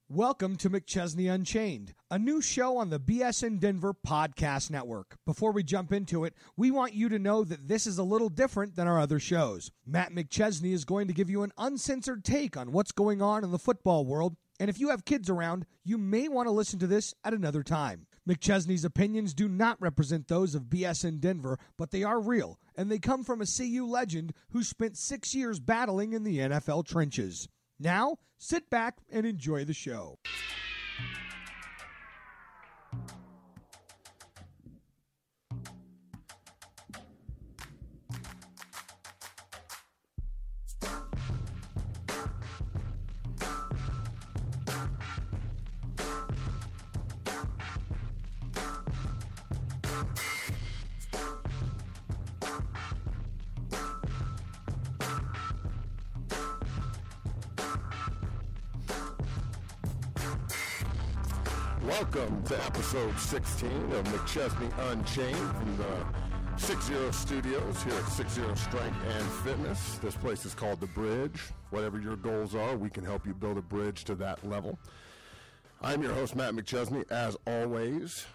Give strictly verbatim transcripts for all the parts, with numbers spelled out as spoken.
Welcome to McChesney Unchained, a new show on the B S N Denver Podcast Network. Before we jump into it, we want you to know that this is a little different than our other shows. Matt McChesney is going to give you an uncensored take on what's going on in the football world, and if you have kids around, you may want to listen to this at another time. McChesney's opinions do not represent those of B S N Denver, but they are real, and they come from a C U legend who spent six years battling in the N F L trenches. Now, sit back and enjoy the show. Welcome to episode sixteen of McChesney Unchained from the six zero Studios here at six zero Strength and Fitness. This place is called The Bridge. Whatever your goals are, we can help you build a bridge to that level. I'm your host, Matt McChesney, as always.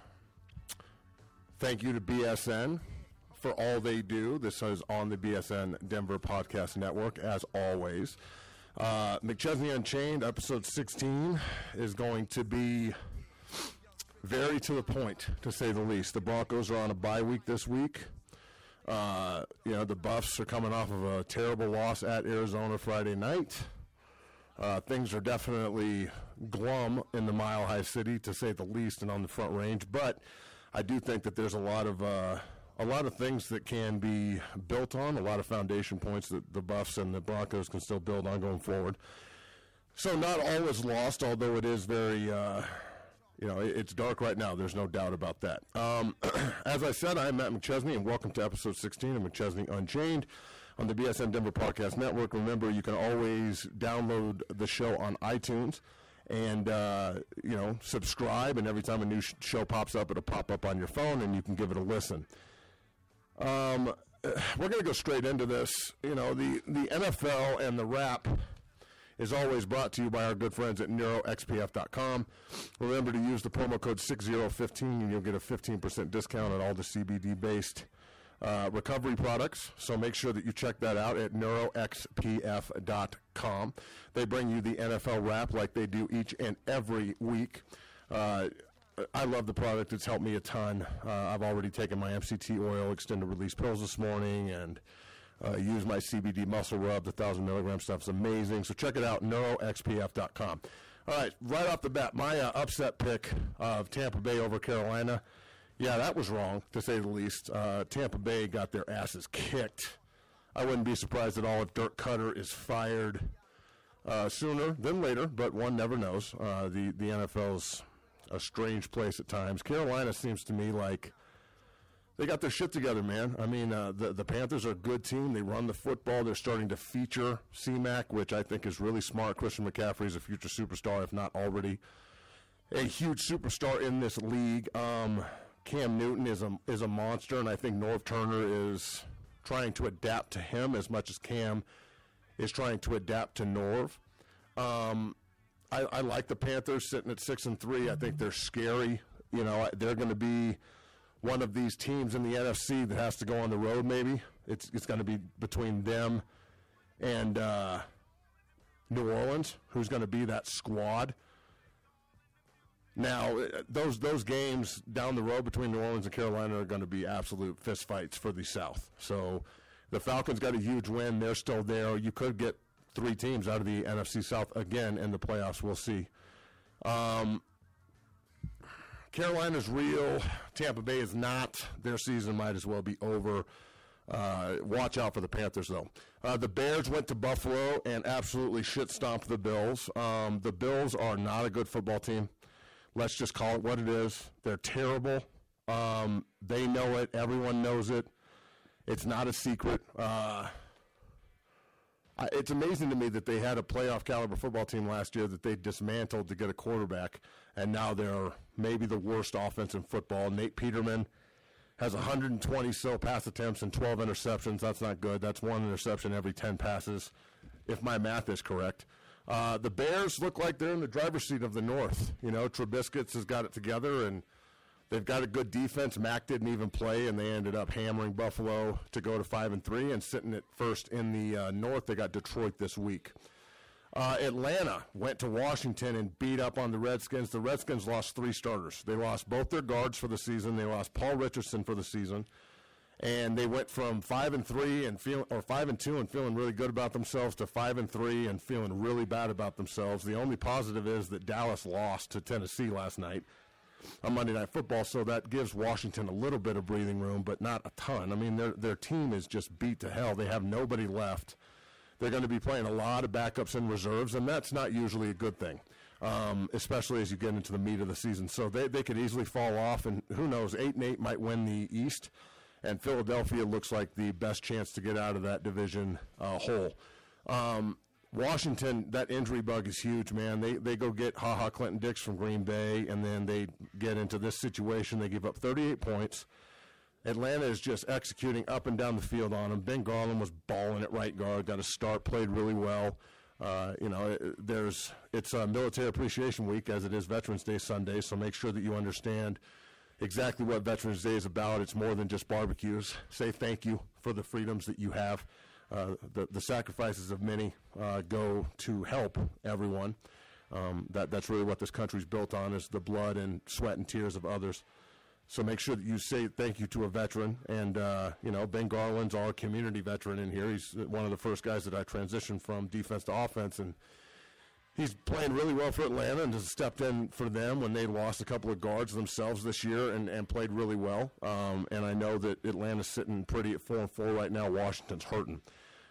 Thank you to B S N for all they do. This is on the B S N Denver Podcast Network, as always. Uh, McChesney Unchained, episode sixteen, is going to be very to the point, to say the least. The Broncos are on a bye week this week. Uh, you know, the Buffs are coming off of a terrible loss at Arizona Friday night. Uh, things are definitely glum in the Mile High City, to say the least, and on the Front Range. But I do think that there's a lot of uh, a lot of things that can be built on, a lot of foundation points that the Buffs and the Broncos can still build on going forward. So not all is lost, although it is very... Uh, You know, it's dark right now. There's no doubt about that. Um, as I said, I'm Matt McChesney, and welcome to episode sixteen of McChesney Unchained on the B S N Denver Podcast Network. Remember, you can always download the show on iTunes and, uh, you know, subscribe, and every time a new sh- show pops up, it'll pop up on your phone, and you can give it a listen. Um, we're going to go straight into this. You know, the, the N F L and the rap is always brought to you by our good friends at neuro x p f dot com. Remember to use the promo code six zero one five and you'll get a fifteen percent discount on all the C B D-based uh, recovery products. So make sure that you check that out at neuro x p f dot com. They bring you the N F L wrap like they do each and every week. Uh, I love the product. It's helped me a ton. Uh, I've already taken my M C T oil extended release pills this morning, and Uh, use my C B D muscle rub. The one thousand milligram stuff is amazing. So check it out, neuro x p f dot com. All right, right off the bat, my uh, upset pick of Tampa Bay over Carolina, yeah, that was wrong, to say the least. Uh, Tampa Bay got their asses kicked. I wouldn't be surprised at all if Dirk Cutter is fired uh, sooner than later, but one never knows. Uh, the, the N F L's a strange place at times. Carolina seems to me like they got their shit together, man. I mean, uh, the, the Panthers are a good team. They run the football. They're starting to feature C-Mac, which I think is really smart. Christian McCaffrey is a future superstar, if not already a huge superstar in this league. Um, Cam Newton is a, is a monster, and I think Norv Turner is trying to adapt to him as much as Cam is trying to adapt to Norv. Um, I, I like the Panthers sitting at six and three. I think they're scary. You know, they're going to be one of these teams in the N F C that has to go on the road, maybe. It's it's going to be between them and uh, New Orleans, who's going to be that squad. Now, those those games down the road between New Orleans and Carolina are going to be absolute fistfights for the South. So the Falcons got a huge win. They're still there. You could get three teams out of the N F C South again in the playoffs. We'll see. Um Carolina's real. Tampa Bay is not. Their season might as well be over. Uh, watch out for the Panthers, though. Uh, the Bears went to Buffalo and absolutely shit-stomped the Bills. Um, the Bills are not a good football team. Let's just call it what it is. They're terrible. Um, they know it. Everyone knows it. It's not a secret. Uh, It's amazing to me that they had a playoff caliber football team last year that they dismantled to get a quarterback, and now they're maybe the worst offense in football. Nate Peterman has one hundred twenty so pass attempts and twelve interceptions. That's not good. That's one interception every ten passes, if my math is correct. Uh, the Bears look like they're in the driver's seat of the North. You know, Trubisky's has got it together, and they've got a good defense. Mac didn't even play, and they ended up hammering Buffalo to go to five and three and sitting at first in the uh, North. They got Detroit this week. Uh, Atlanta went to Washington and beat up on the Redskins. The Redskins lost three starters. They lost both their guards for the season. They lost Paul Richardson for the season. And they went from five and three and feel, or five and two and feeling really good about themselves to five and three and feeling really bad about themselves. The only positive is that Dallas lost to Tennessee last night on Monday Night Football, so that gives Washington a little bit of breathing room, but not a ton. I mean, their their team is just beat to hell. They have nobody left. They're going to be playing a lot of backups and reserves, and that's not usually a good thing, um, especially as you get into the meat of the season. So they they could easily fall off, and who knows, eight and eight might win the East. And Philadelphia looks like the best chance to get out of that division uh, hole. Um, Washington, that injury bug is huge, man. They they go get Ha Ha Clinton Dix from Green Bay, and then they get into this situation. They give up thirty-eight points. Atlanta is just executing up and down the field on them. Ben Garland was balling at right guard, got a start, played really well. Uh, you know, there's it's a Military Appreciation Week, as it is Veterans Day Sunday, so make sure that you understand exactly what Veterans Day is about. It's more than just barbecues. Say thank you for the freedoms that you have. Uh, the, the sacrifices of many uh, go to help everyone. Um, that, that's really what this country's built on, is the blood and sweat and tears of others. So make sure that you say thank you to a veteran. And, uh, you know, Ben Garland's our community veteran in here. He's one of the first guys that I transitioned from defense to offense, and he's playing really well for Atlanta and has stepped in for them when they lost a couple of guards themselves this year and, and played really well. Um, and I know that Atlanta's sitting pretty at four and four right now. Washington's hurting.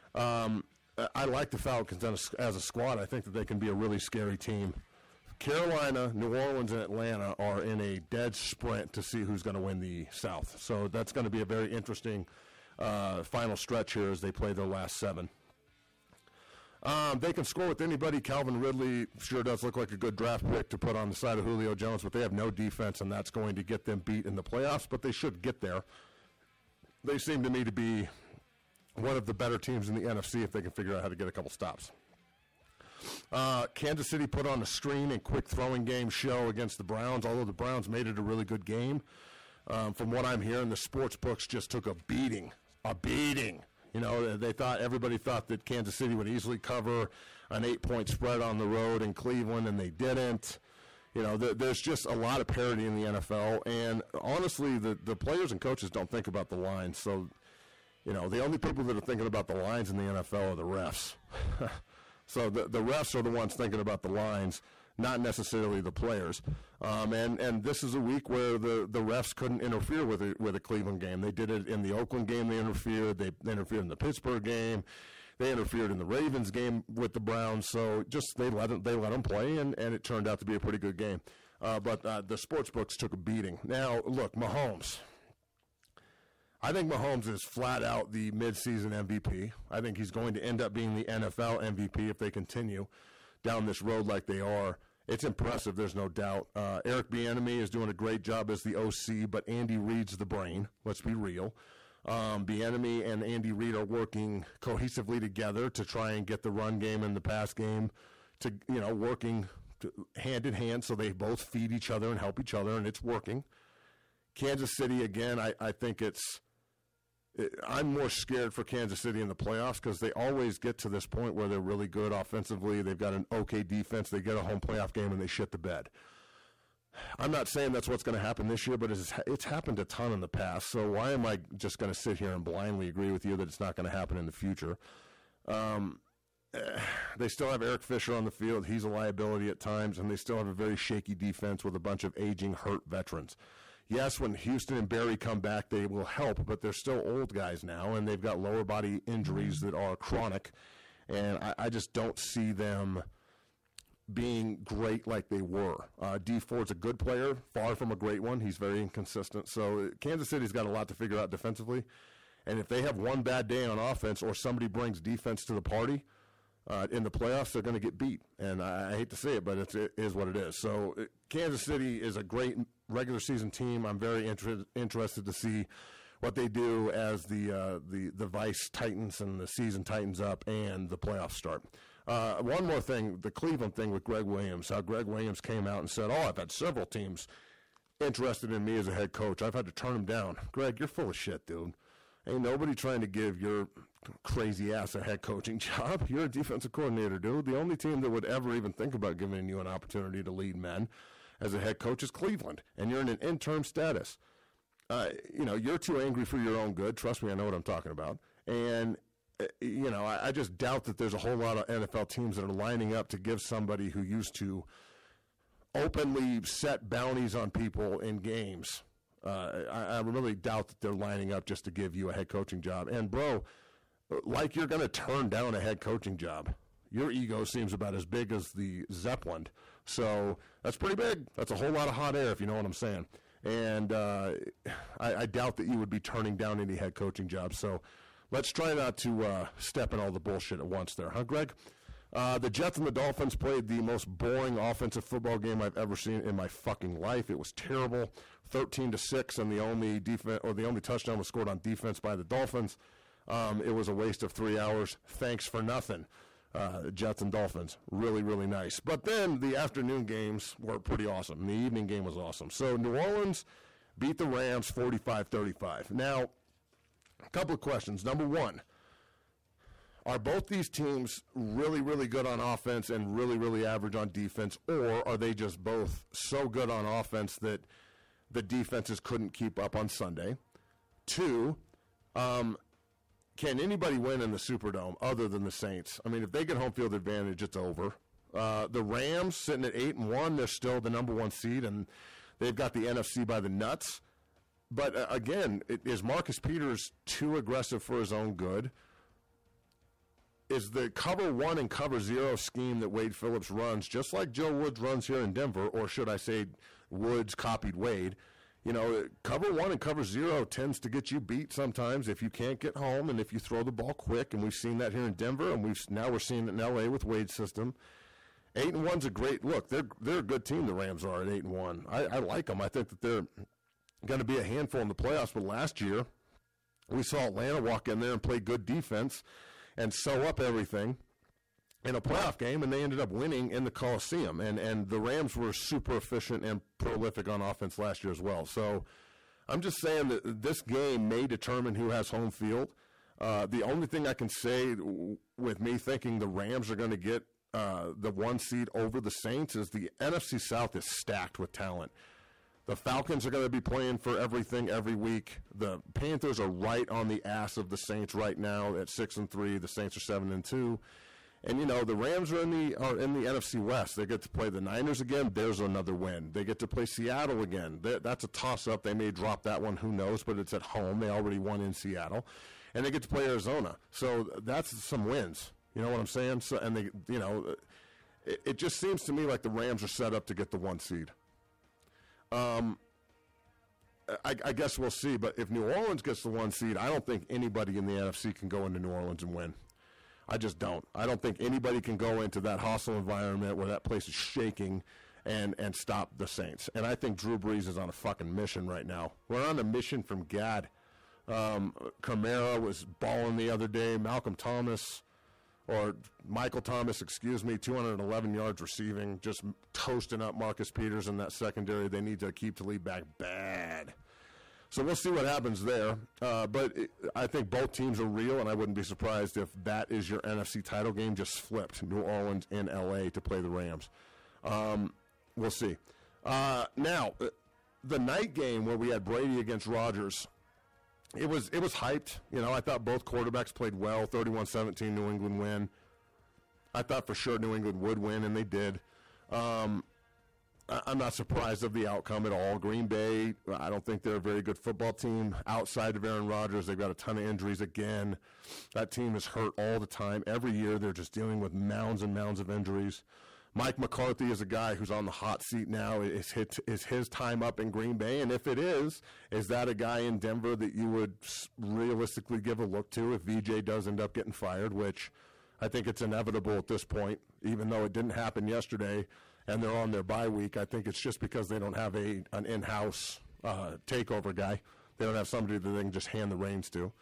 Um, I like the Falcons as a, as a squad. I think that they can be a really scary team. Carolina, New Orleans, and Atlanta are in a dead sprint to see who's going to win the South. So that's going to be a very interesting uh, final stretch here as they play their last seven. Um, they can score with anybody. Calvin Ridley sure does look like a good draft pick to put on the side of Julio Jones, but they have no defense, and that's going to get them beat in the playoffs, but they should get there. They seem to me to be one of the better teams in the N F C if they can figure out how to get a couple stops. Uh, Kansas City put on a screen and quick throwing game show against the Browns, although the Browns made it a really good game. Um, from what I'm hearing, the sports books just took a beating, a beating. You know, they thought, everybody thought that Kansas City would easily cover an eight-point spread on the road in Cleveland, and they didn't. You know, th- there's just a lot of parity in the N F L, and honestly, the, the players and coaches don't think about the lines. So, you know, the only people that are thinking about the lines in the N F L are the refs. So the, the refs are the ones thinking about the lines, not necessarily the players. Um, and, and this is a week where the, the refs couldn't interfere with a, with a Cleveland game. They did it in the Oakland game. They interfered. They, they interfered in the Pittsburgh game. They interfered in the Ravens game with the Browns. So just they let them, they let them play, and, and it turned out to be a pretty good game. Uh, but uh, the sports books took a beating. Now, look, Mahomes. I think Mahomes is flat out the midseason M V P. I think he's going to end up being the N F L M V P if they continue down this road like they are. It's impressive, there's no doubt. Uh, Eric Bieniemy is doing a great job as the O C, but Andy Reid's the brain. Let's be real. Um, Bieniemy and Andy Reid are working cohesively together to try and get the run game and the pass game to, you know, working to, hand in hand, so they both feed each other and help each other, and it's working. Kansas City, again, I, I think it's I'm more scared for Kansas City in the playoffs because they always get to this point where they're really good offensively. They've got an okay defense. They get a home playoff game, and they shit the bed. I'm not saying that's what's going to happen this year, but it's, it's happened a ton in the past. So why am I just going to sit here and blindly agree with you that it's not going to happen in the future? Um, they still have Eric Fisher on the field. He's a liability at times, and they still have a very shaky defense with a bunch of aging, hurt veterans. Yes, when Houston and Barry come back, they will help, but they're still old guys now, and they've got lower body injuries that are chronic, and I, I just don't see them being great like they were. Uh, Dee Ford's a good player, far from a great one. He's very inconsistent. So Kansas City's got a lot to figure out defensively, and if they have one bad day on offense or somebody brings defense to the party, Uh, in the playoffs, they're going to get beat. And I, I hate to say it, but it's, it is what it is. So it, Kansas City is a great regular season team. I'm very inter- interested to see what they do as the, uh, the, the Vice tightens and the season tightens up and the playoffs start. Uh, one more thing, the Cleveland thing with Greg Williams, how Greg Williams came out and said, oh, I've had several teams interested in me as a head coach. I've had to turn them down. Greg, you're full of shit, dude. Ain't nobody trying to give your crazy ass a head coaching job. You're a defensive coordinator, dude. The only team that would ever even think about giving you an opportunity to lead men as a head coach is Cleveland, and you're in an interim status. Uh, you know, you're too angry for your own good. Trust me, I know what I'm talking about. And, uh, you know, I, I just doubt that there's a whole lot of N F L teams that are lining up to give somebody who used to openly set bounties on people in games. Uh, I, I really doubt that they're lining up just to give you a head coaching job. And, bro, like you're going to turn down a head coaching job. Your ego seems about as big as the Zeppelin. So that's pretty big. That's a whole lot of hot air, if you know what I'm saying. And uh, I, I doubt that you would be turning down any head coaching jobs. So let's try not to uh, step in all the bullshit at once there, huh, Greg? Uh, the Jets and the Dolphins played the most boring offensive football game I've ever seen in my fucking life. It was terrible, thirteen to six, and the only defense or the only touchdown was scored on defense by the Dolphins. Um, it was a waste of three hours. Thanks for nothing. Uh, Jets and Dolphins, really, really nice. But then the afternoon games were pretty awesome. The evening game was awesome. So New Orleans beat the Rams forty-five thirty-five. Now, a couple of questions. Number one, are both these teams really, really good on offense and really, really average on defense, or are they just both so good on offense that the defenses couldn't keep up on Sunday? Two, um, can anybody win in the Superdome other than the Saints? I mean, if they get home field advantage, it's over. Uh, the Rams sitting at eight and one, they're still the number one seed, and they've got the N F C by the nuts. But uh, again, it, is Marcus Peters too aggressive for his own good? Is the cover one and cover zero scheme that Wade Phillips runs just like Joe Woods runs here in Denver, or should I say Woods copied Wade? You know, cover one and cover zero tends to get you beat sometimes if you can't get home and if you throw the ball quick, and we've seen that here in Denver, and we've now we're seeing it in L A with Wade's system. Eight and one's a great look. They're they're a good team. The Rams are at eight and one. I, I like them. I think that they're going to be a handful in the playoffs. But last year, we saw Atlanta walk in there and play good defense and sew up everything in a playoff game, and they ended up winning in the Coliseum. And, and the Rams were super efficient and prolific on offense last year as well. So I'm just saying that this game may determine who has home field. Uh, the only thing I can say w- with me thinking the Rams are going to get uh, the one seed over the Saints is the N F C South is stacked with talent. The Falcons are going to be playing for everything every week. The Panthers are right on the ass of the Saints right now at six and three. The Saints are seven and two. And, you know, the Rams are in the are in the N F C West. They get to play the Niners again. There's another win. They get to play Seattle again. They, that's a toss-up. They may drop that one. Who knows? But it's at home. They already won in Seattle. And they get to play Arizona. So that's some wins. You know what I'm saying? So, and, they, you know, it, it just seems to me like the Rams are set up to get the one seed. Um, I, I guess we'll see. But if New Orleans gets the one seed, I don't think anybody in the N F C can go into New Orleans and win. I just don't. I don't think anybody can go into that hostile environment where that place is shaking and, and stop the Saints. And I think Drew Brees is on a fucking mission right now. We're on a mission from God. Um, Kamara was balling the other day. Malcolm Thomas, or Michael Thomas, excuse me, two hundred eleven yards receiving, just toasting up Marcus Peters in that secondary. They need to keep the lead back bad. So we'll see what happens there. Uh, but it, I think both teams are real, and I wouldn't be surprised if that is your N F C title game, just flipped, New Orleans and L A to play the Rams. Um, we'll see. Uh, now, the night game where we had Brady against Rodgers, it was it was hyped. You know, I thought both quarterbacks played well, thirty-one seventeen New England win. I thought for sure New England would win, and they did. Um I'm not surprised of the outcome at all. Green Bay, I don't think they're a very good football team outside of Aaron Rodgers. They've got a ton of injuries again. That team is hurt all the time. Every year they're just dealing with mounds and mounds of injuries. Mike McCarthy is a guy who's on the hot seat now. Is his, is his time up in Green Bay? And if it is, is that a guy in Denver that you would realistically give a look to if V J does end up getting fired, which I think it's inevitable at this point, even though it didn't happen yesterday. And they're on their bye week. I think it's just because they don't have a an in-house uh, takeover guy. They don't have somebody that they can just hand the reins to.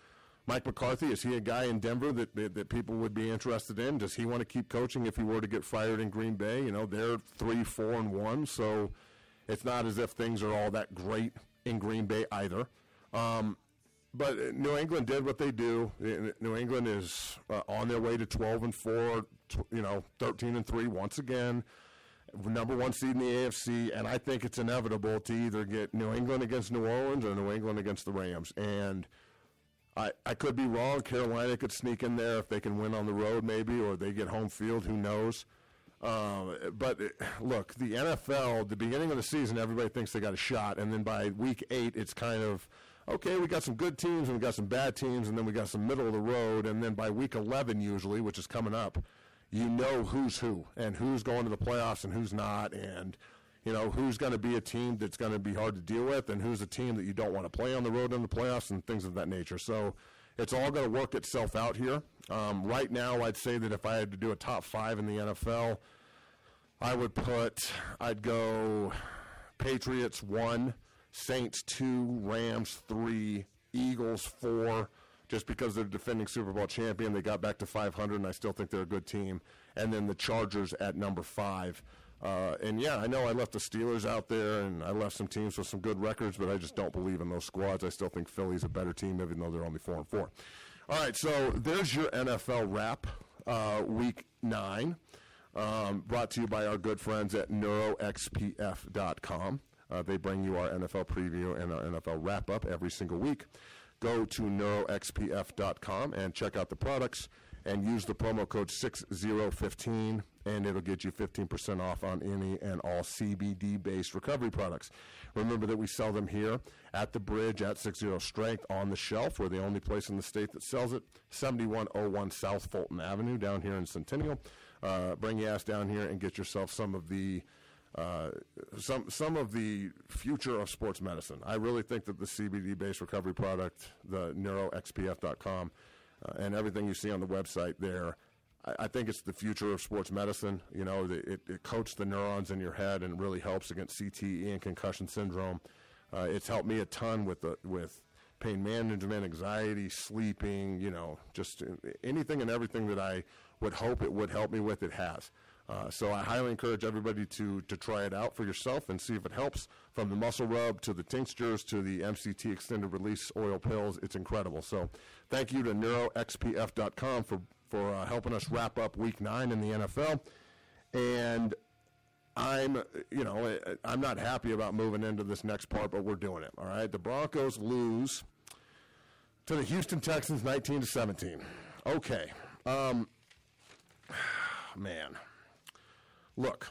Mike McCarthy, is he a guy in Denver that, that that people would be interested in? Does he want to keep coaching if he were to get fired in Green Bay? You know, they're three, four, and one, so it's not as if things are all that great in Green Bay either. Um, but New England did what they do. New England is uh, on their way to twelve and four, you know, thirteen and three once again. Number one seed in the A F C, and I think it's inevitable to either get New England against New Orleans or New England against the Rams. And I, I could be wrong. Carolina could sneak in there if they can win on the road maybe, or they get home field. Who knows? Uh, but, it, look, the N F L, the beginning of the season, everybody thinks they got a shot. And then by week eight, it's kind of, okay, we got some good teams and we got some bad teams, and then we got some middle of the road. And then by week eleven usually, which is coming up, you know who's who and who's going to the playoffs and who's not. And, you know, who's going to be a team that's going to be hard to deal with and who's a team that you don't want to play on the road in the playoffs and things of that nature. So it's all going to work itself out here. Um, right now, I'd say that if I had to do a top five in the N F L, I would put, I'd go Patriots one, Saints two, Rams three, Eagles four, just because they're defending Super Bowl champion. They got back to five hundred, and I still think they're a good team. And then the Chargers at number five. Uh, and, yeah, I know I left the Steelers out there, and I left some teams with some good records, but I just don't believe in those squads. I still think Philly's a better team, even though they're only four and four. All right, so there's your N F L wrap, uh, week nine, um, brought to you by our good friends at neuro x p f dot com. Uh, they bring you our N F L preview and our N F L wrap-up every single week. Go to neuro x p f dot com and check out the products and use the promo code six zero one five, and it'll get you fifteen percent off on any and all C B D-based recovery products. Remember that we sell them here at the Bridge at six zero Strength on the shelf. We're the only place in the state that sells it, seventy-one oh one South Fulton Avenue down here in Centennial. Uh, bring your ass down here and get yourself some of the Uh, some some of the future of sports medicine. I really think that the C B D-based recovery product, the neuro x p f dot com, uh, and everything you see on the website there, I, I think it's the future of sports medicine. You know, the, it, it coats the neurons in your head and really helps against C T E and concussion syndrome. Uh, it's helped me a ton with the, with pain management, anxiety, sleeping, you know, just anything and everything that I would hope it would help me with, it has. Uh, so I highly encourage everybody to to try it out for yourself and see if it helps. From the muscle rub to the tinctures to the M C T extended release oil pills, it's incredible. So thank you to neuro x p f dot com for, for uh, helping us wrap up week nine in the N F L. And I'm, you know, I'm not happy about moving into this next part, but we're doing it, all right? The Broncos lose to the Houston Texans nineteen to seventeen. Okay. Um, man. Look,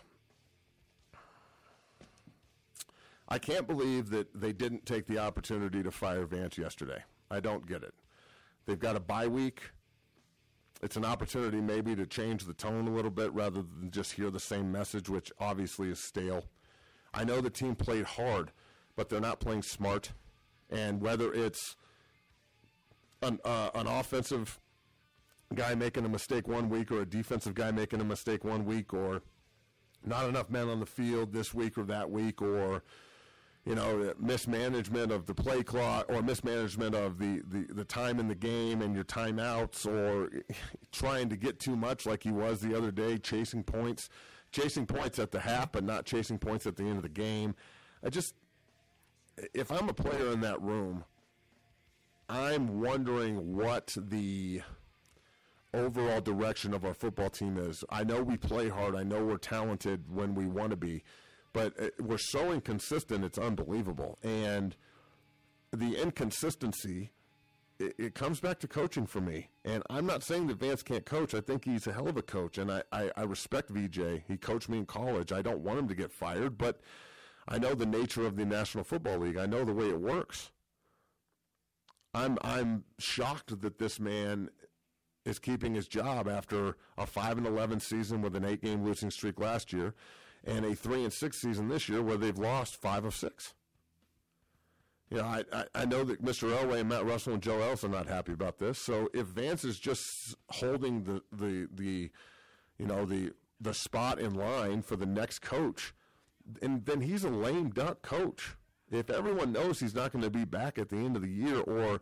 I can't believe that they didn't take the opportunity to fire Vance yesterday. I don't get it. They've got a bye week. It's an opportunity maybe to change the tone a little bit rather than just hear the same message, which obviously is stale. I know the team played hard, but they're not playing smart. And whether it's an, uh, an offensive guy making a mistake one week or a defensive guy making a mistake one week or not enough men on the field this week or that week, or, you know, mismanagement of the play clock or mismanagement of the, the, the time in the game and your timeouts, or trying to get too much like he was the other day, chasing points, chasing points at the half but not chasing points at the end of the game. I just, if I'm a player in that room, I'm wondering what the overall direction of our football team is. I know we play hard. I know we're talented when we want to be, but we're so inconsistent, it's unbelievable. And the inconsistency, it, it comes back to coaching for me. And I'm not saying that Vance can't coach. I think he's a hell of a coach, and I, I, I respect V J. He coached me in college. I don't want him to get fired, but I know the nature of the National Football League. I know the way it works. I'm I'm shocked that this man is keeping his job after a five and eleven season with an eight-game losing streak last year, and a three and six season this year where they've lost five of six. You know, I, I, I know that Mister Elway and Matt Russell and Joe Ellis are not happy about this. So if Vance is just holding the the the, you know the the spot in line for the next coach, and then he's a lame duck coach. If everyone knows he's not going to be back at the end of the year, or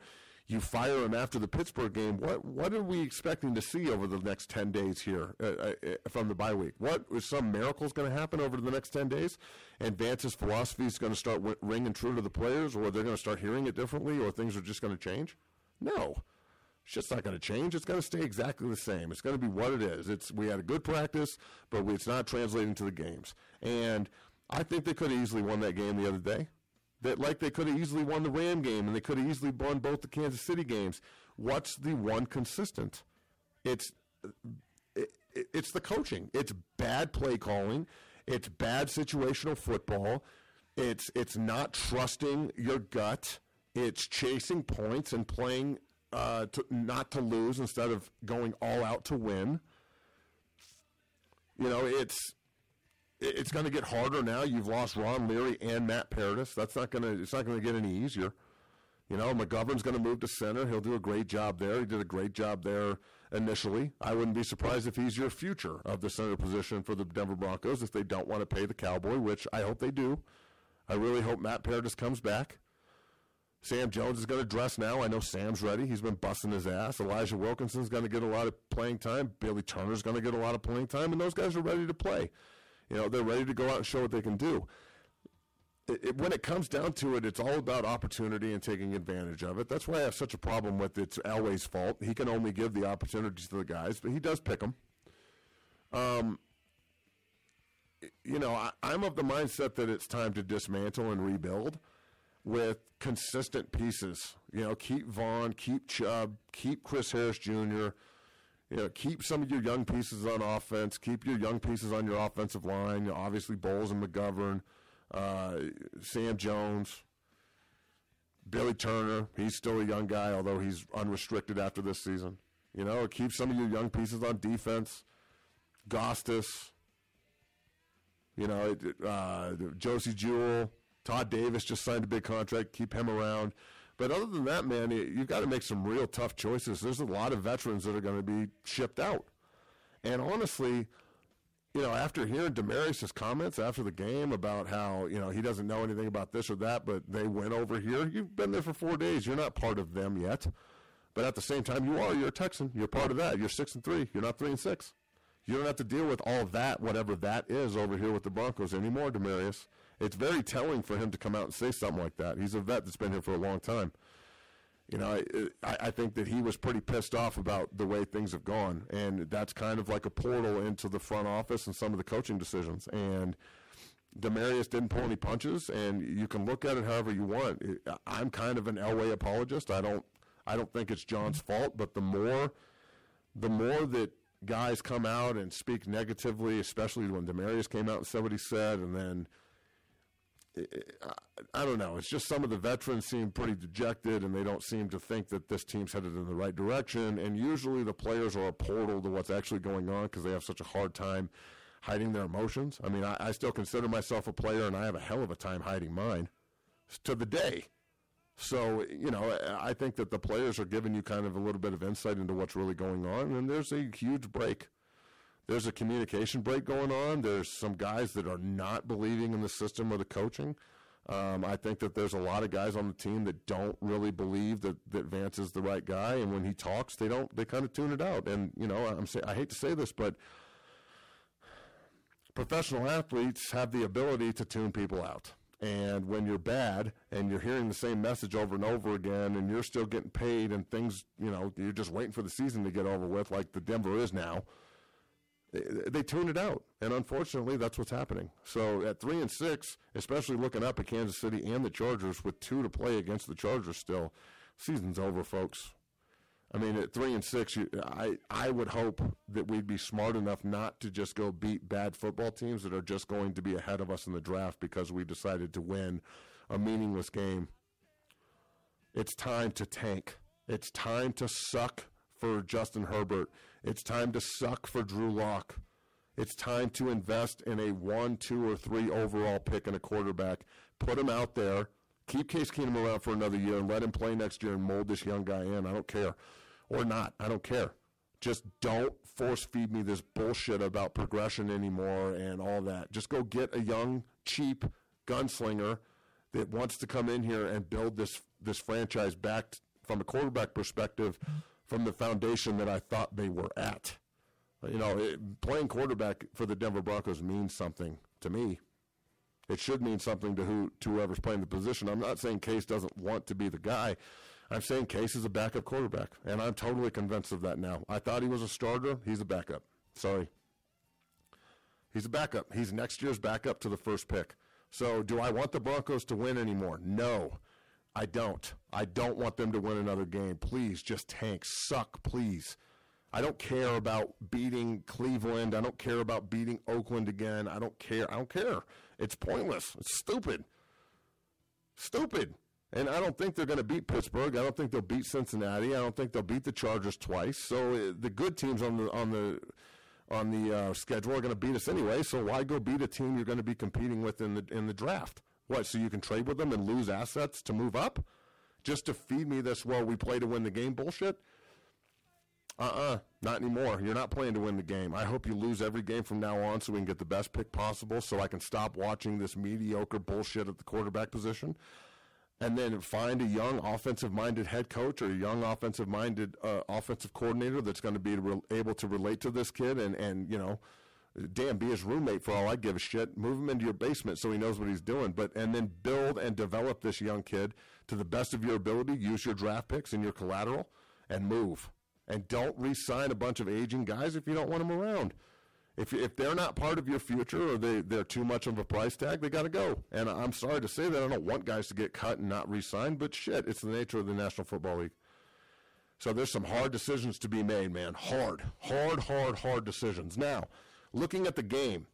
You fire him after the Pittsburgh game. What what are we expecting to see over the next ten days here uh, uh, from the bye week? What is some miracles going to happen over the next ten days? And Vance's philosophy is going to start w- ringing true to the players, or they're going to start hearing it differently, or things are just going to change? No. It's just not going to change. It's going to stay exactly the same. It's going to be what it is. It's we had a good practice, but we, it's not translating to the games. And I think they could have easily won that game the other day. That like they could have easily won the Ram game, and they could have easily won both the Kansas City games. What's the one consistent? It's it, it's the coaching. It's bad play calling. It's bad situational football. It's it's not trusting your gut. It's chasing points and playing uh, to, not to lose instead of going all out to win. You know, it's it's going to get harder now. You've lost Ron Leary and Matt Paradis. That's not going to. It's not going to get any easier. You know, McGovern's going to move to center. He'll do a great job there. He did a great job there initially. I wouldn't be surprised if he's your future of the center position for the Denver Broncos if they don't want to pay the Cowboy, which I hope they do. I really hope Matt Paradis comes back. Sam Jones is going to dress now. I know Sam's ready. He's been busting his ass. Elijah Wilkinson's going to get a lot of playing time. Billy Turner's going to get a lot of playing time, and those guys are ready to play. You know, they're ready to go out and show what they can do. It, it, when it comes down to it, it's all about opportunity and taking advantage of it. That's why I have such a problem with it's Elway's fault. He can only give the opportunities to the guys, but he does pick them. Um, you know, I, I'm of the mindset that it's time to dismantle and rebuild with consistent pieces. You know, keep Vaughn, keep Chubb, keep Chris Harris Junior, You know, keep some of your young pieces on offense. Keep your young pieces on your offensive line. You know, obviously, Bowles and McGovern, uh, Sam Jones, Billy Turner. He's still a young guy, although he's unrestricted after this season. You know, keep some of your young pieces on defense. Gostis. You know, uh, Josie Jewell. Todd Davis just signed a big contract. Keep him around. But other than that, man, you've got to make some real tough choices. There's a lot of veterans that are going to be shipped out. And honestly, you know, after hearing Demaryius' comments after the game about how, you know, he doesn't know anything about this or that, but they went over here, you've been there for four days. You're not part of them yet. But at the same time, you are. You're a Texan. You're part of that. You're six and three. You're not three and six. You don't have to deal with all of that, whatever that is, over here with the Broncos anymore, Demaryius. It's very telling for him to come out and say something like that. He's a vet that's been here for a long time. You know, I, I think that he was pretty pissed off about the way things have gone, and that's kind of like a portal into the front office and some of the coaching decisions. And Demaryius didn't pull any punches, and you can look at it however you want. I'm kind of an Elway apologist. I don't, I don't think it's John's fault, but the more, the more that guys come out and speak negatively, especially when Demaryius came out and said what he said, and then. I don't know. It's just some of the veterans seem pretty dejected, and they don't seem to think that this team's headed in the right direction. And usually the players are a portal to what's actually going on because they have such a hard time hiding their emotions. I mean, I, I still consider myself a player, and I have a hell of a time hiding mine to the day. So, you know, I think that the players are giving you kind of a little bit of insight into what's really going on, and there's a huge break. There's a communication break going on. There's some guys that are not believing in the system or the coaching. Um, I think that there's a lot of guys on the team that don't really believe that, that Vance is the right guy, and when he talks, they don't. They kind of tune it out. And you know, I'm say, I hate to say this, but professional athletes have the ability to tune people out. And when you're bad and you're hearing the same message over and over again, and you're still getting paid, and things, you know, you're just waiting for the season to get over with, like the Denver is now. They tune it out, and unfortunately, that's what's happening. So at three and six, especially looking up at Kansas City and the Chargers with two to play against the Chargers, still, season's over, folks. I mean, at three and six, you, I I would hope that we'd be smart enough not to just go beat bad football teams that are just going to be ahead of us in the draft because we decided to win a meaningless game. It's time to tank. It's time to suck for Justin Herbert. It's time to suck for Drew Lock. It's time to invest in a one, two, or three overall pick and a quarterback. Put him out there. Keep Case Keenum around for another year and let him play next year and mold this young guy in. I don't care. Or not. I don't care. Just don't force feed me this bullshit about progression anymore and all that. Just go get a young, cheap gunslinger that wants to come in here and build this, this franchise back from a quarterback perspective from the foundation that I thought they were at. You know, it, playing quarterback for the Denver Broncos means something to me. It should mean something to who to whoever's playing the position. I'm not saying Case doesn't want to be the guy. I'm saying Case is a backup quarterback, and I'm totally convinced of that now. I thought he was a starter. He's a backup. Sorry. He's a backup. He's next year's backup to the first pick. So do I want the Broncos to win anymore? No, I don't. I don't want them to win another game. Please, just tank. Suck, please. I don't care about beating Cleveland. I don't care about beating Oakland again. I don't care. I don't care. It's pointless. It's stupid. Stupid. And I don't think they're going to beat Pittsburgh. I don't think they'll beat Cincinnati. I don't think they'll beat the Chargers twice. So uh, the good teams on the on the on the uh, schedule are going to beat us anyway. So why go beat a team you're going to be competing with in the in the draft? What? So you can trade with them and lose assets to move up, just to feed me this? Well, we play to win the game bullshit. Uh-uh, not anymore. You're not playing to win the game. I hope you lose every game from now on so we can get the best pick possible so I can stop watching this mediocre bullshit at the quarterback position and then find a young offensive-minded head coach or a young offensive-minded uh, offensive coordinator that's going to be re- able to relate to this kid and, and, you know, damn, be his roommate for all I give a shit. Move him into your basement so he knows what he's doing. But and then build and develop this young kid to the best of your ability. Use your draft picks and your collateral and move. And don't re-sign a bunch of aging guys if you don't want them around. If if they're not part of your future or they, they're too much of a price tag, they got to go. And I'm sorry to say that. I don't want guys to get cut and not re-signed, but shit, it's the nature of the National Football League. So there's some hard decisions to be made, man. Hard, hard, hard, hard decisions. Now, looking at the game,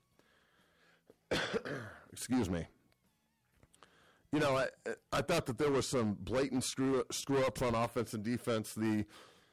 excuse me, you know, I I thought that there was some blatant screw, screw-ups on offense and defense. The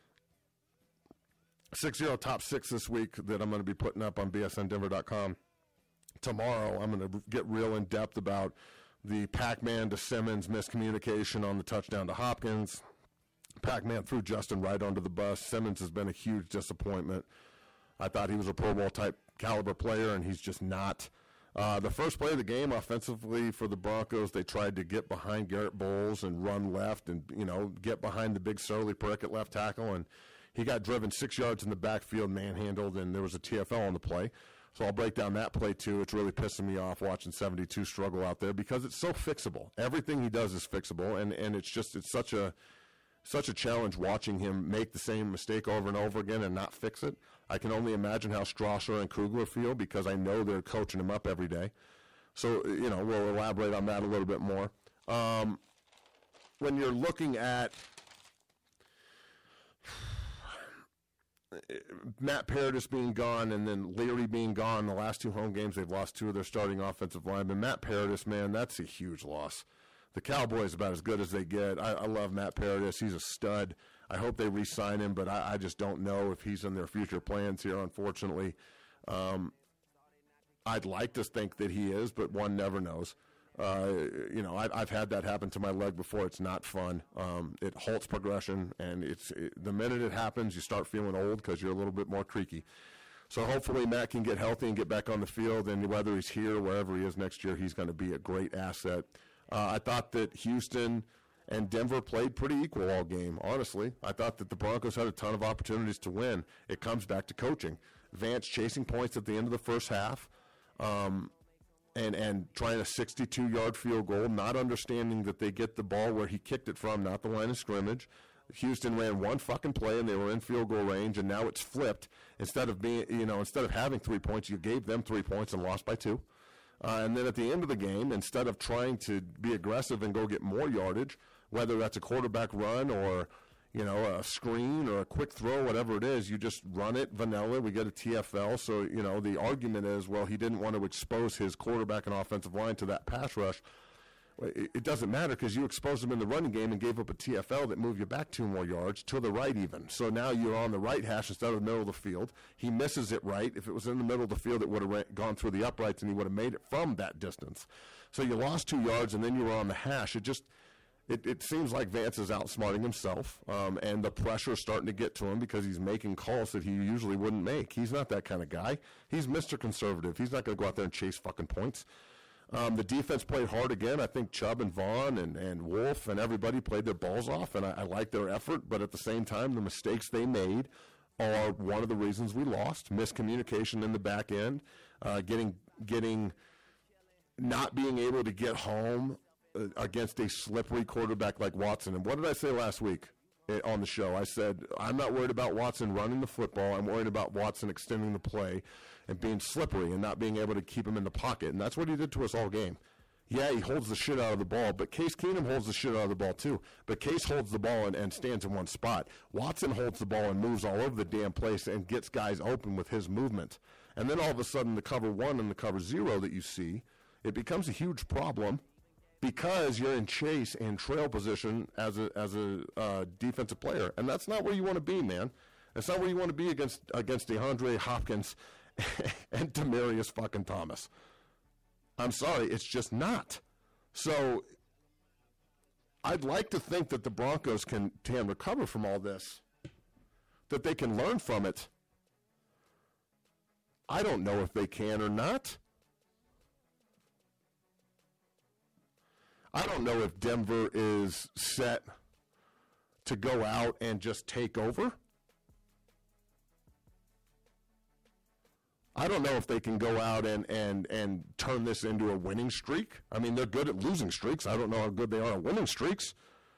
six zero top six this week that I'm going to be putting up on B S N Denver dot com. Tomorrow, I'm going to get real in depth about the Pac-Man to Simmons miscommunication on the touchdown to Hopkins. Pac-Man threw Justin right onto the bus. Simmons has been a huge disappointment. I thought he was a Pro Bowl type caliber player, and he's just not. Uh, the first play of the game offensively for the Broncos, they tried to get behind Garrett Bowles and run left and, you know, get behind the big surly prick at left tackle, and he got driven six yards in the backfield, manhandled, and there was a T F L on the play. So I'll break down that play, too. It's really pissing me off watching seventy-two struggle out there because it's so fixable. Everything he does is fixable, and, and it's just it's such a such a challenge watching him make the same mistake over and over again and not fix it. I can only imagine how Strasser and Kugler feel because I know they're coaching him up every day. So, you know, we'll elaborate on that a little bit more. Um, when you're looking at Matt Paradis being gone and then Leary being gone, the last two home games, they've lost two of their starting offensive linemen. Matt Paradis, man, that's a huge loss. The Cowboys about as good as they get. I, I love Matt Paradis. He's a stud. I hope they re-sign him, but I, I just don't know if he's in their future plans here, unfortunately. Um, I'd like to think that he is, but one never knows. Uh, you know, I, I've had that happen to my leg before. It's not fun. Um, it halts progression, and it's it, the minute it happens, you start feeling old because you're a little bit more creaky. So hopefully Matt can get healthy and get back on the field, and whether he's here or wherever he is next year, he's going to be a great asset. Uh, I thought that Houston and Denver played pretty equal all game, honestly. I thought that the Broncos had a ton of opportunities to win. It comes back to coaching. Vance chasing points at the end of the first half. Um, And, and trying a sixty-two-yard field goal, not understanding that they get the ball where he kicked it from, not the line of scrimmage. Houston ran one fucking play, and they were in field goal range, and now it's flipped. Instead of being, you know, instead of having three points, you gave them three points and lost by two. Uh, and then at the end of the game, instead of trying to be aggressive and go get more yardage, whether that's a quarterback run or, you know, a screen or a quick throw, whatever it is, you just run it vanilla. We get a T F L. So, you know, the argument is, well, he didn't want to expose his quarterback and offensive line to that pass rush. It, it doesn't matter because you exposed him in the running game and gave up a T F L that moved you back two more yards to the right even. So now you're on the right hash instead of the middle of the field. He misses it right. If it was in the middle of the field, it would have gone through the uprights and he would have made it from that distance. So you lost two yards and then you were on the hash. It just... It, it seems like Vance is outsmarting himself, um, and the pressure is starting to get to him because he's making calls that he usually wouldn't make. He's not that kind of guy. He's Mister Conservative. He's not going to go out there and chase fucking points. Um, the defense played hard again. I think Chubb and Vaughn and, and Wolf and everybody played their balls off, and I, I like their effort. But at the same time, the mistakes they made are one of the reasons we lost. Miscommunication in the back end, uh, getting getting not being able to get home uh, against a slippery quarterback like Watson. And what did I say last week on the show? I said, I'm not worried about Watson running the football. I'm worried about Watson extending the play and being slippery and not being able to keep him in the pocket. And that's what he did to us all game. Yeah, he holds the shit out of the ball, but Case Keenum holds the shit out of the ball too. But Case holds the ball and, and stands in one spot. Watson holds the ball and moves all over the damn place and gets guys open with his movement. And then all of a sudden the cover one and the cover zero that you see, it becomes a huge problem because you're in chase and trail position as a as a uh, defensive player. And that's not where you want to be, man. That's not where you want to be against against DeAndre Hopkins and Demaryius fucking Thomas. I'm sorry, it's just not. So I'd like to think that the Broncos can, can recover from all this, that they can learn from it. I don't know if they can or not. I don't know if Denver is set to go out and just take over. I don't know if they can go out and, and, and turn this into a winning streak. I mean, they're good at losing streaks. I don't know how good they are at winning streaks.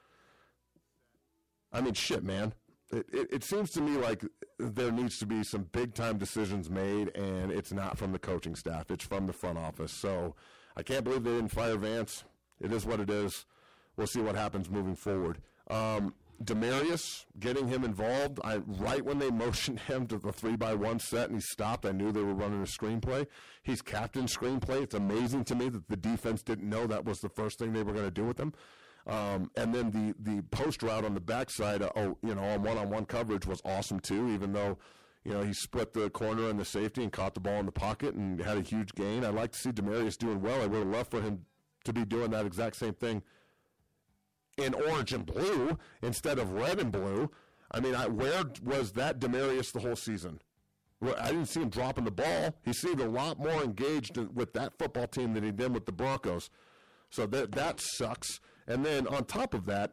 I mean, shit, man. It, it, it seems to me like there needs to be some big-time decisions made, and it's not from the coaching staff. It's from the front office. So I can't believe they didn't fire Vance. It is what it is. We'll see what happens moving forward. Um, Demaryius, getting him involved, I right when they motioned him to the three by one set and he stopped, I knew they were running a screenplay. He's captain screenplay. It's amazing to me that the defense didn't know that was the first thing they were going to do with him. Um, and then the, the post route on the backside, uh, oh, you know, on one-on-one coverage was awesome too, even though, you know, he split the corner and the safety and caught the ball in the pocket and had a huge gain. I'd like to see Demaryius doing well. I would have loved for him to be doing that exact same thing in orange and blue instead of red and blue. I mean, I, where was that Demaryius the whole season? Well, I didn't see him dropping the ball. He seemed a lot more engaged with that football team than he did with the Broncos. So that that sucks. And then on top of that,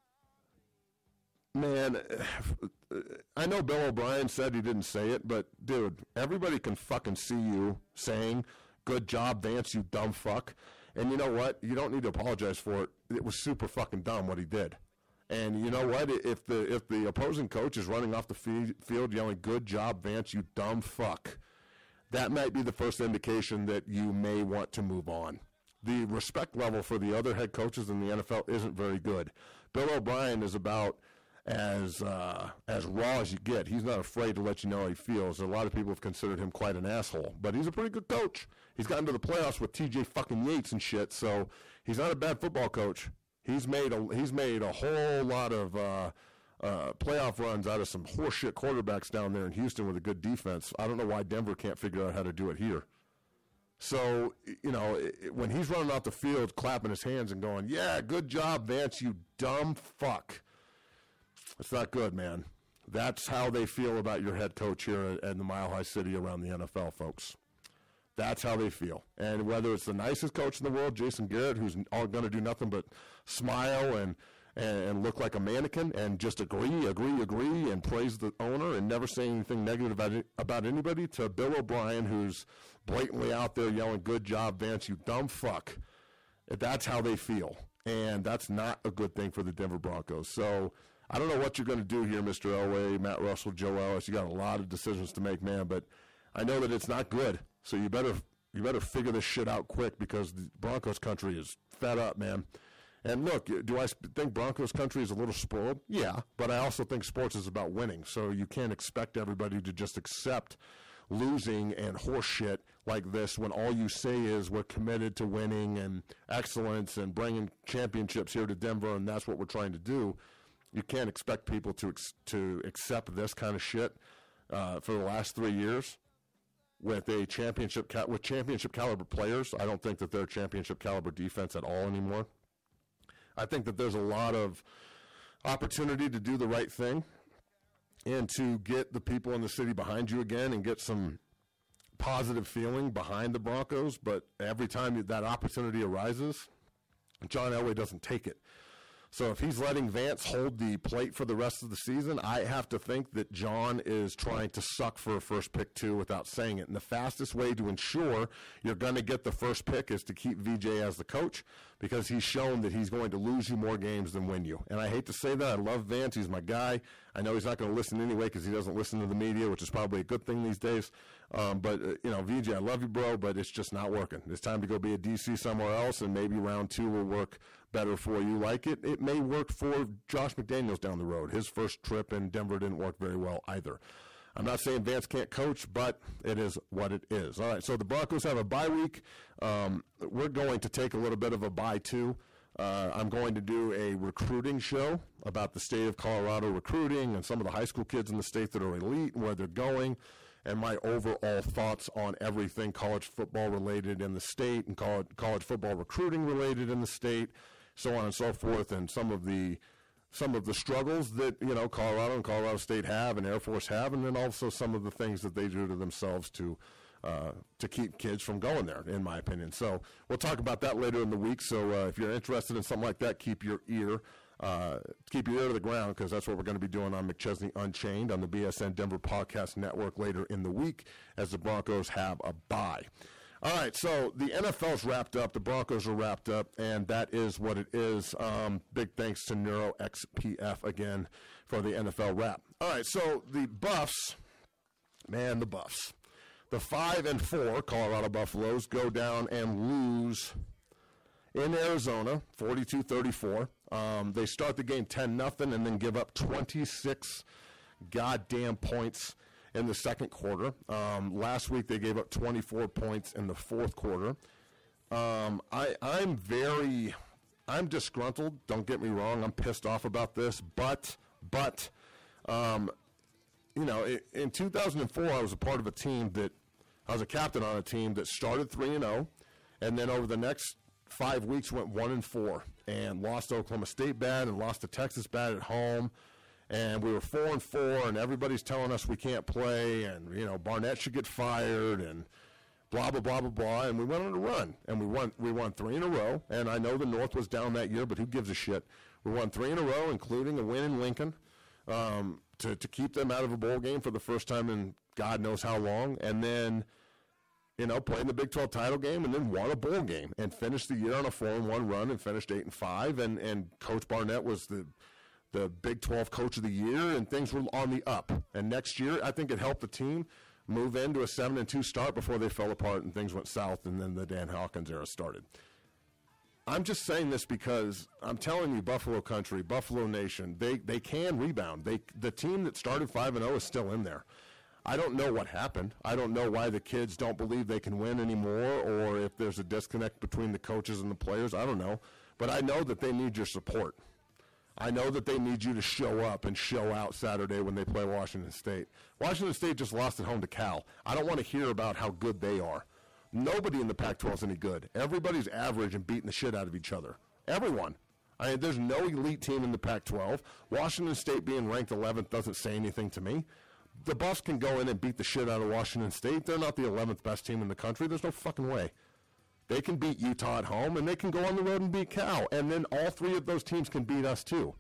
man, I know Bill O'Brien said he didn't say it, but, dude, everybody can fucking see you saying, good job, Vance, you dumb fuck. And you know what? You don't need to apologize for it. It was super fucking dumb what he did. And you know what? If the if the opposing coach is running off the field yelling, good job, Vance, you dumb fuck, that might be the first indication that you may want to move on. The respect level for the other head coaches in the N F L isn't very good. Bill O'Brien is about as uh, as raw as you get. He's not afraid to let you know how he feels. A lot of people have considered him quite an asshole, but he's a pretty good coach. He's gotten to the playoffs with T J fucking Yates and shit, so he's not a bad football coach. He's made a he's made a whole lot of uh, uh, playoff runs out of some horseshit quarterbacks down there in Houston with a good defense. I don't know why Denver can't figure out how to do it here. So, you know, it, when he's running off the field, clapping his hands and going, yeah, good job, Vance, you dumb fuck. It's not good, man. That's how they feel about your head coach here in the Mile High City around the N F L, folks. That's how they feel. And whether it's the nicest coach in the world, Jason Garrett, who's all going to do nothing but smile and, and, and look like a mannequin and just agree, agree, agree, and praise the owner and never say anything negative about, it, about anybody, to Bill O'Brien, who's blatantly out there yelling, good job, Vance, you dumb fuck. That's how they feel. And that's not a good thing for the Denver Broncos. So I don't know what you're going to do here, Mister Elway, Matt Russell, Joe Ellis. You got a lot of decisions to make, man, but I know that it's not good. So you better you better figure this shit out quick, because the Broncos country is fed up, man. And look, do I think Broncos country is a little spoiled? Yeah, but I also think sports is about winning. So you can't expect everybody to just accept losing and horse shit like this when all you say is we're committed to winning and excellence and bringing championships here to Denver, and that's what we're trying to do. You can't expect people to ex- to accept this kind of shit uh, for the last three years with a championship ca- with championship caliber players. I don't think that they're championship caliber defense at all anymore. I think that there's a lot of opportunity to do the right thing and to get the people in the city behind you again and get some positive feeling behind the Broncos, but every time that opportunity arises, John Elway doesn't take it. So if he's letting Vance hold the plate for the rest of the season, I have to think that John is trying to suck for a first pick too without saying it. And the fastest way to ensure you're going to get the first pick is to keep V J as the coach, because he's shown that he's going to lose you more games than win you. And I hate to say that. I love Vance. He's my guy. I know he's not going to listen anyway because he doesn't listen to the media, which is probably a good thing these days. Um, but, uh, you know, V J, I love you, bro, but it's just not working. It's time to go be a D C somewhere else, and maybe round two will work better for you. Like it, it may work for Josh McDaniels down the road. His first trip in Denver didn't work very well either. I'm not saying Vance can't coach, but it is what it is. All right, so the Broncos have a bye week. Um, we're going to take a little bit of a bye, too. Uh, I'm going to do a recruiting show about the state of Colorado recruiting and some of the high school kids in the state that are elite and where they're going, and my overall thoughts on everything college football related in the state and college, college football recruiting related in the state, so on and so forth, and some of the some of the struggles that, you know, Colorado and Colorado State have and Air Force have, and then also some of the things that they do to themselves to uh, to keep kids from going there, in my opinion. So we'll talk about that later in the week. So uh, if you're interested in something like that, keep your ear uh, keep your ear to the ground, because that's what we're going to be doing on McChesney Unchained on the B S N Denver Podcast Network later in the week as the Broncos have a bye. All right, so the N F L's wrapped up, the Broncos are wrapped up, and that is what it is. Um, big thanks to NeuroXPF again for the N F L wrap. All right, so the Buffs, man, the Buffs. The five and four Colorado Buffaloes go down and lose in Arizona, forty-two thirty-four. Um, they start the game ten nothing and then give up twenty-six goddamn points in the second quarter. Um, last week they gave up twenty-four points in the fourth quarter. Um, I, I'm very, I'm disgruntled. Don't get me wrong. I'm pissed off about this. But, but, um, you know, it, in two thousand four I was a part of a team that, I was a captain on a team that started three and oh, and then over the next five weeks went one and four and lost to Oklahoma State bad and lost to Texas bad at home. And we were four and four, and everybody's telling us we can't play, and you know Barnett should get fired, and blah blah blah blah blah. And we went on a run, and we won. We won three in a row. And I know the North was down that year, but who gives a shit? We won three in a row, including a win in Lincoln, um, to to keep them out of a bowl game for the first time in God knows how long. And then, you know, playing the Big twelve title game, and then won a bowl game, and finished the year on a four and one run, and finished eight and five. And and Coach Barnett was the the Big twelve Coach of the Year, and things were on the up. And next year, I think it helped the team move into a seven and two start before they fell apart and things went south, and then the Dan Hawkins era started. I'm just saying this because I'm telling you, Buffalo country, Buffalo nation, they, they can rebound. They the team that started five and oh is still in there. I don't know what happened. I don't know why the kids don't believe they can win anymore, or if there's a disconnect between the coaches and the players. I don't know. But I know that they need your support. I know that they need you to show up and show out Saturday when they play Washington State. Washington State just lost at home to Cal. I don't want to hear about how good they are. Nobody in the Pac twelve is any good. Everybody's average and beating the shit out of each other. Everyone. I mean, there's no elite team in the Pac twelve. Washington State being ranked eleventh doesn't say anything to me. The Buffs can go in and beat the shit out of Washington State. They're not the eleventh best team in the country. There's no fucking way. They can beat Utah at home, and they can go on the road and beat Cal. And then all three of those teams can beat us too.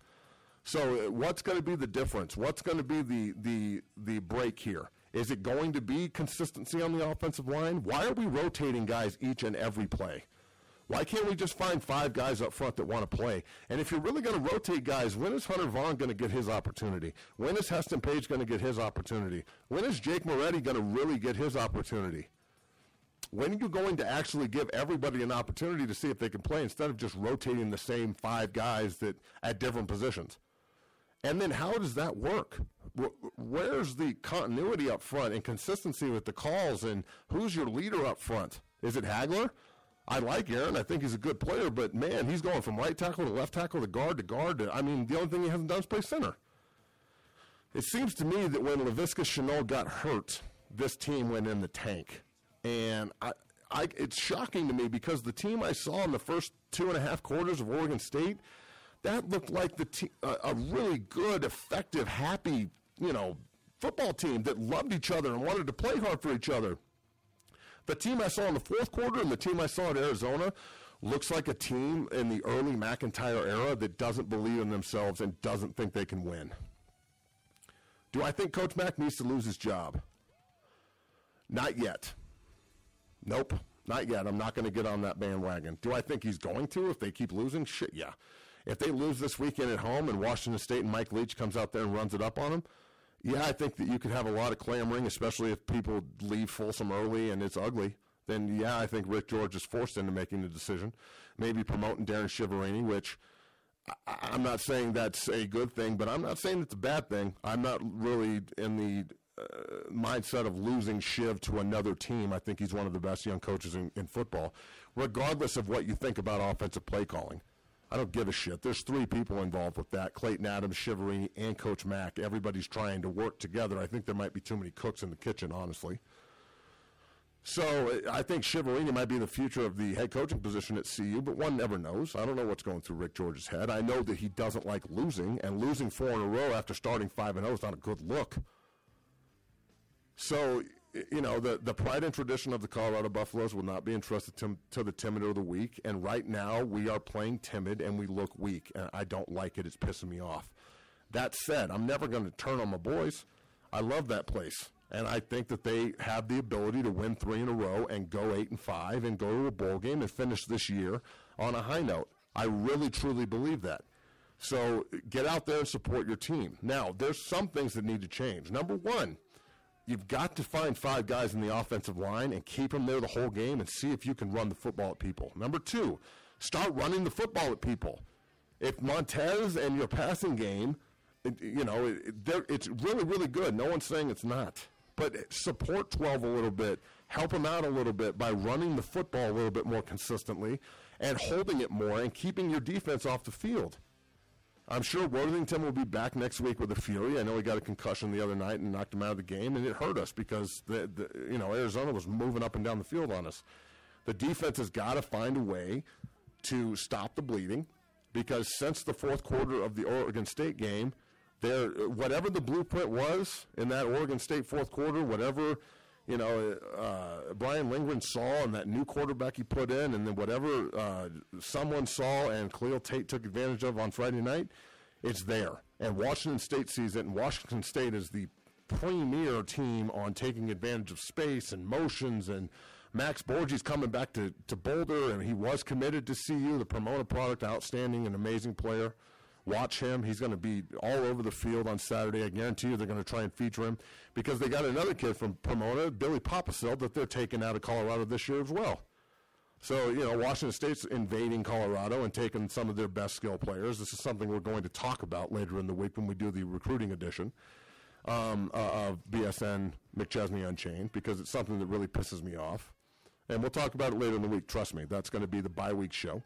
So what's going to be the difference? What's going to be the, the, the break here? Is it going to be consistency on the offensive line? Why are we rotating guys each and every play? Why can't we just find five guys up front that want to play? And if you're really going to rotate guys, when is Hunter Vaughn going to get his opportunity? When is Heston Page going to get his opportunity? When is Jake Moretti going to really get his opportunity? When are you going to actually give everybody an opportunity to see if they can play instead of just rotating the same five guys that at different positions? And then how does that work? Where's the continuity up front and consistency with the calls, and who's your leader up front? Is it Hagler? I like Aaron. I think he's a good player, but, man, he's going from right tackle to left tackle to guard to guard. To, I mean, the only thing he hasn't done is play center. It seems to me that when Laviska Shenault got hurt, this team went in the tank. And I, I, it's shocking to me because the team I saw in the first two and a half quarters of Oregon State, that looked like the te- uh, a really good, effective, happy, you know, football team that loved each other and wanted to play hard for each other. The team I saw in the fourth quarter and the team I saw at Arizona looks like a team in the early McIntyre era that doesn't believe in themselves and doesn't think they can win. Do I think Coach Mack needs to lose his job? Not yet. Nope, not yet. I'm not going to get on that bandwagon. Do I think he's going to if they keep losing? Shit, yeah. If they lose this weekend at home and Washington State and Mike Leach comes out there and runs it up on them, yeah, I think that you could have a lot of clamoring, especially if people leave Folsom early and it's ugly. Then, yeah, I think Rick George is forced into making the decision, maybe promoting Darren Shiverini, which I, I'm not saying that's a good thing, but I'm not saying it's a bad thing. I'm not really in the uh, mindset of losing Shiv to another team. I think he's one of the best young coaches in, in football, regardless of what you think about offensive play calling. I don't give a shit. There's three people involved with that, Clayton Adams, Shiverini, and Coach Mack. Everybody's trying to work together. I think there might be too many cooks in the kitchen, honestly. So I think Shiverini might be the future of the head coaching position at C U, but one never knows. I don't know what's going through Rick George's head. I know that he doesn't like losing, and losing four in a row after starting five and oh is not a good look. So, you know, the, the pride and tradition of the Colorado Buffaloes will not be entrusted to, to the timid of the week, and right now we are playing timid and we look weak, and I don't like it. It's pissing me off. That said, I'm never going to turn on my boys. I love that place. And I think that they have the ability to win three in a row and go eight and five and go to a bowl game and finish this year on a high note. I really, truly believe that. So get out there and support your team. Now, there's some things that need to change. Number one, you've got to find five guys in the offensive line and keep them there the whole game and see if you can run the football at people. Number two, start running the football at people. If Montez and your passing game, you know, it's really, really good. No one's saying it's not. But support twelve a little bit, help them out a little bit by running the football a little bit more consistently and holding it more and keeping your defense off the field. I'm sure Worthington will be back next week with a fury. I know he got a concussion the other night and knocked him out of the game, and it hurt us because the, the you know Arizona was moving up and down the field on us. The defense has got to find a way to stop the bleeding because since the fourth quarter of the Oregon State game, There, whatever the blueprint was in that Oregon State fourth quarter, whatever, you know, uh, Brian Lindgren saw and that new quarterback he put in, and then whatever uh, someone saw and Khalil Tate took advantage of on Friday night, it's there. And Washington State sees it, and Washington State is the premier team on taking advantage of space and motions, and Max Borges coming back to, to Boulder, and he was committed to C U, the Pomona product, outstanding and amazing player. Watch him. He's going to be all over the field on Saturday. I guarantee you they're going to try and feature him because they got another kid from Pomona, Billy Papasil, that they're taking out of Colorado this year as well. So, you know, Washington State's invading Colorado and taking some of their best skill players. This is something we're going to talk about later in the week when we do the recruiting edition um, uh, of B S N McChesney Unchained because it's something that really pisses me off. And we'll talk about it later in the week. Trust me, that's going to be the bye-week show.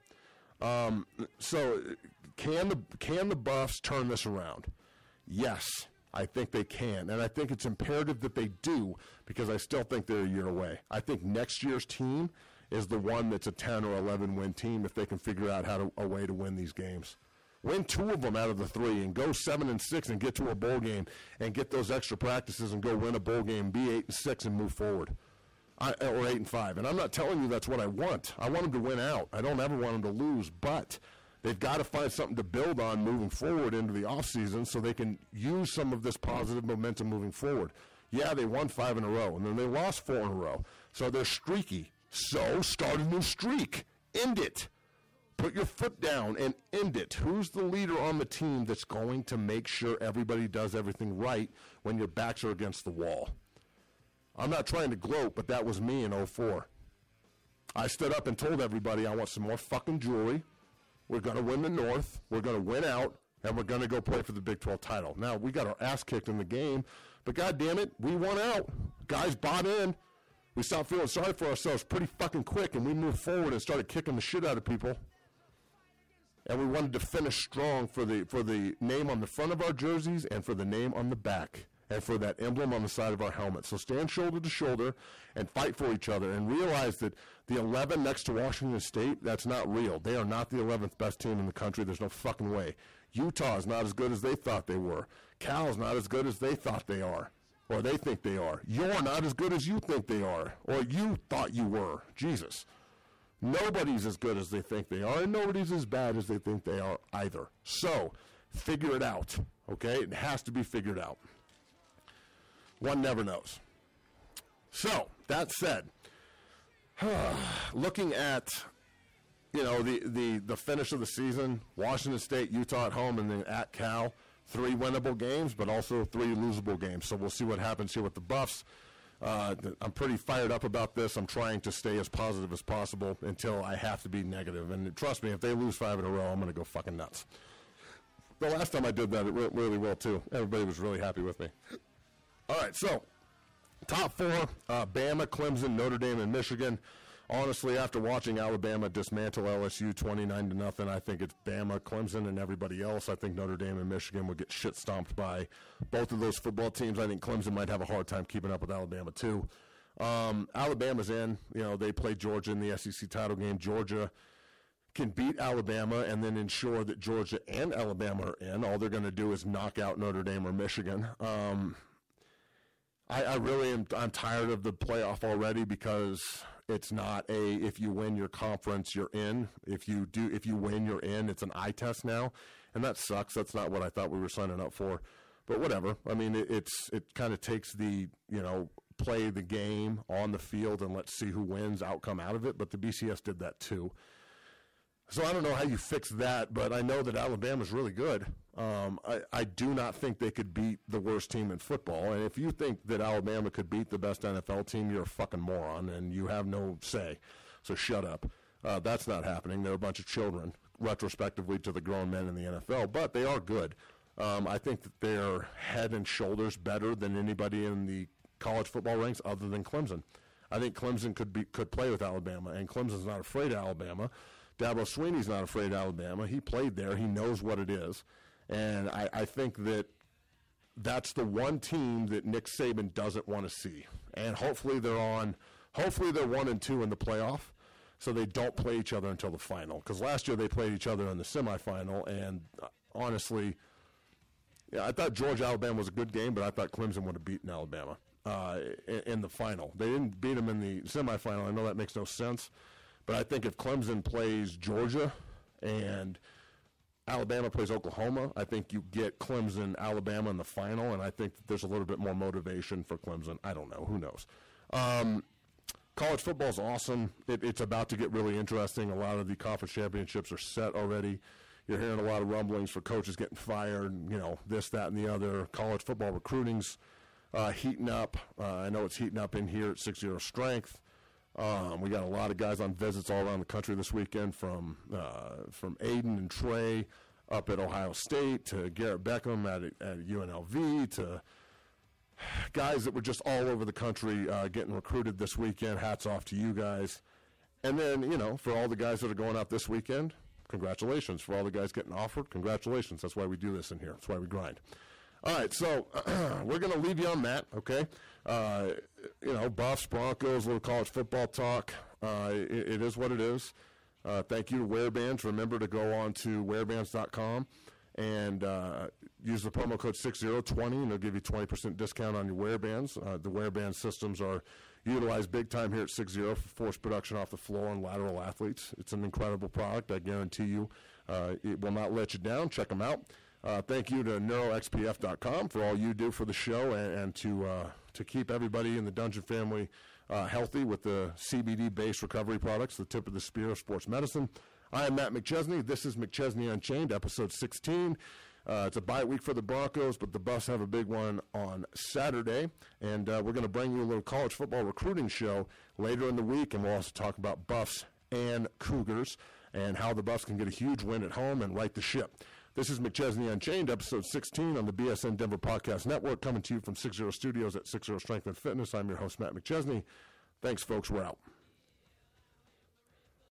Um, so can the can the Buffs turn this around? Yes, I think they can, and I think it's imperative that they do because I still think they're a year away. I think next year's team is the one that's a ten or eleven win team if they can figure out how to, a way to win these games. Win two of them out of the three and go seven and six and get to a bowl game and get those extra practices and go win a bowl game, be eight and six and move forward. I, or eight and five, and I'm not telling you that's what I want. I want them to win out. I don't ever want them to lose, but they've got to find something to build on moving forward into the offseason so they can use some of this positive momentum moving forward. Yeah, they won five in a row, and then they lost four in a row, so they're streaky. So start a new streak. End it. Put your foot down and end it. Who's the leader on the team that's going to make sure everybody does everything right when your backs are against the wall? I'm not trying to gloat, but that was me in oh four. I stood up and told everybody I want some more fucking jewelry. We're going to win the North. We're going to win out, and we're going to go play for the Big twelve title. Now, we got our ass kicked in the game, but God damn it, we won out. Guys bought in. We stopped feeling sorry for ourselves pretty fucking quick, and we moved forward and started kicking the shit out of people. And we wanted to finish strong for the for the name on the front of our jerseys and for the name on the back. And for that emblem on the side of our helmet. So stand shoulder to shoulder and fight for each other and realize that the eleven next to Washington State, that's not real. They are not the eleventh best team in the country. There's no fucking way. Utah is not as good as they thought they were. Cal's not as good as they thought they are. or they think they are. You're not as good as you think they are, or you thought you were. Jesus. Nobody's as good as they think they are, and nobody's as bad as they think they are either. So, figure it out, okay? It has to be figured out. One never knows. So, that said, looking at, you know, the, the, the finish of the season, Washington State, Utah at home, and then at Cal, three winnable games, but also three losable games. So we'll see what happens here with the Buffs. Uh, I'm pretty fired up about this. I'm trying to stay as positive as possible until I have to be negative. And trust me, if they lose five in a row, I'm going to go fucking nuts. The last time I did that, it went really well, too. Everybody was really happy with me. All right, so top four, uh, Bama, Clemson, Notre Dame, and Michigan. Honestly, after watching Alabama dismantle L S U twenty-nine to nothing, I think it's Bama, Clemson, and everybody else. I think Notre Dame and Michigan would get shit stomped by both of those football teams. I think Clemson might have a hard time keeping up with Alabama, too. Um, Alabama's in. You know, they played Georgia in the S E C title game. Georgia can beat Alabama and then ensure that Georgia and Alabama are in. All they're going to do is knock out Notre Dame or Michigan. Um, I, I really am I'm tired of the playoff already because it's not a if you win your conference you're in. If you do if you win you're in. It's an eye test now, and that sucks. That's not what I thought we were signing up for. But whatever. I mean, it, it's it kind of takes the you know play the game on the field and let's see who wins outcome out of it. But the B C S did that too. So I don't know how you fix that, but I know that Alabama's really good. Um, I, I do not think they could beat the worst team in football. And if you think that Alabama could beat the best N F L team, you're a fucking moron, and you have no say. So shut up. Uh, that's not happening. They're a bunch of children, retrospectively to the grown men in the N F L, but they are good. Um, I think that they're head and shoulders better than anybody in the college football ranks other than Clemson. I think Clemson could be could play with Alabama, and Clemson's not afraid of Alabama. Dabo Swinney's not afraid of Alabama. He played there. He knows what it is. And I, I think that that's the one team that Nick Saban doesn't want to see. And hopefully they're on – hopefully they're one and two in the playoff so they don't play each other until the final. Because last year they played each other in the semifinal, and uh, honestly, yeah, I thought Georgia-Alabama was a good game, but I thought Clemson would have beaten Alabama uh, in, in the final. They didn't beat them in the semifinal. I know that makes no sense. But I think if Clemson plays Georgia and Alabama plays Oklahoma, I think you get Clemson, Alabama in the final, and I think that there's a little bit more motivation for Clemson. I don't know. Who knows? Um, college football is awesome. It, it's about to get really interesting. A lot of the conference championships are set already. You're hearing a lot of rumblings for coaches getting fired, you know, this, that, and the other. College football recruiting's uh, heating up. Uh, I know it's heating up in here at six zero Strength. Um, we got a lot of guys on visits all around the country this weekend, from uh, from Aiden and Trey up at Ohio State to Garrett Beckham at, at U N L V to guys that were just all over the country uh, getting recruited this weekend. Hats off to you guys. And then, you know, for all the guys that are going out this weekend, congratulations. For all the guys getting offered, congratulations. That's why we do this in here. That's why we grind. All right, so we're going to leave you on that, okay? Uh, you know, Buffs, Broncos, a little college football talk. Uh, it, it is what it is. Uh, thank you to Wearbands. Remember to go on to wearbands dot com and uh, use the promo code six zero twenty, and they'll give you twenty percent discount on your Wearbands. Uh, the Wearband systems are utilized big time here at six zero for force production off the floor and lateral athletes. It's an incredible product. I guarantee you uh, it will not let you down. Check them out. Uh, thank you to neuro x p f dot com for all you do for the show and, and to uh, to keep everybody in the Dungeon family uh, healthy with the C B D-based recovery products, the tip of the spear of sports medicine. I am Matt McChesney. This is McChesney Unchained, episode sixteen. Uh, it's a bye week for the Broncos, but the Buffs have a big one on Saturday. And uh, we're going to bring you a little college football recruiting show later in the week, and we'll also talk about Buffs and Cougars and how the Buffs can get a huge win at home and right the ship. This is McChesney Unchained, episode sixteen on the B S N Denver Podcast Network, coming to you from six zero Studios at six zero Strength and Fitness. I'm your host, Matt McChesney. Thanks, folks. We're out.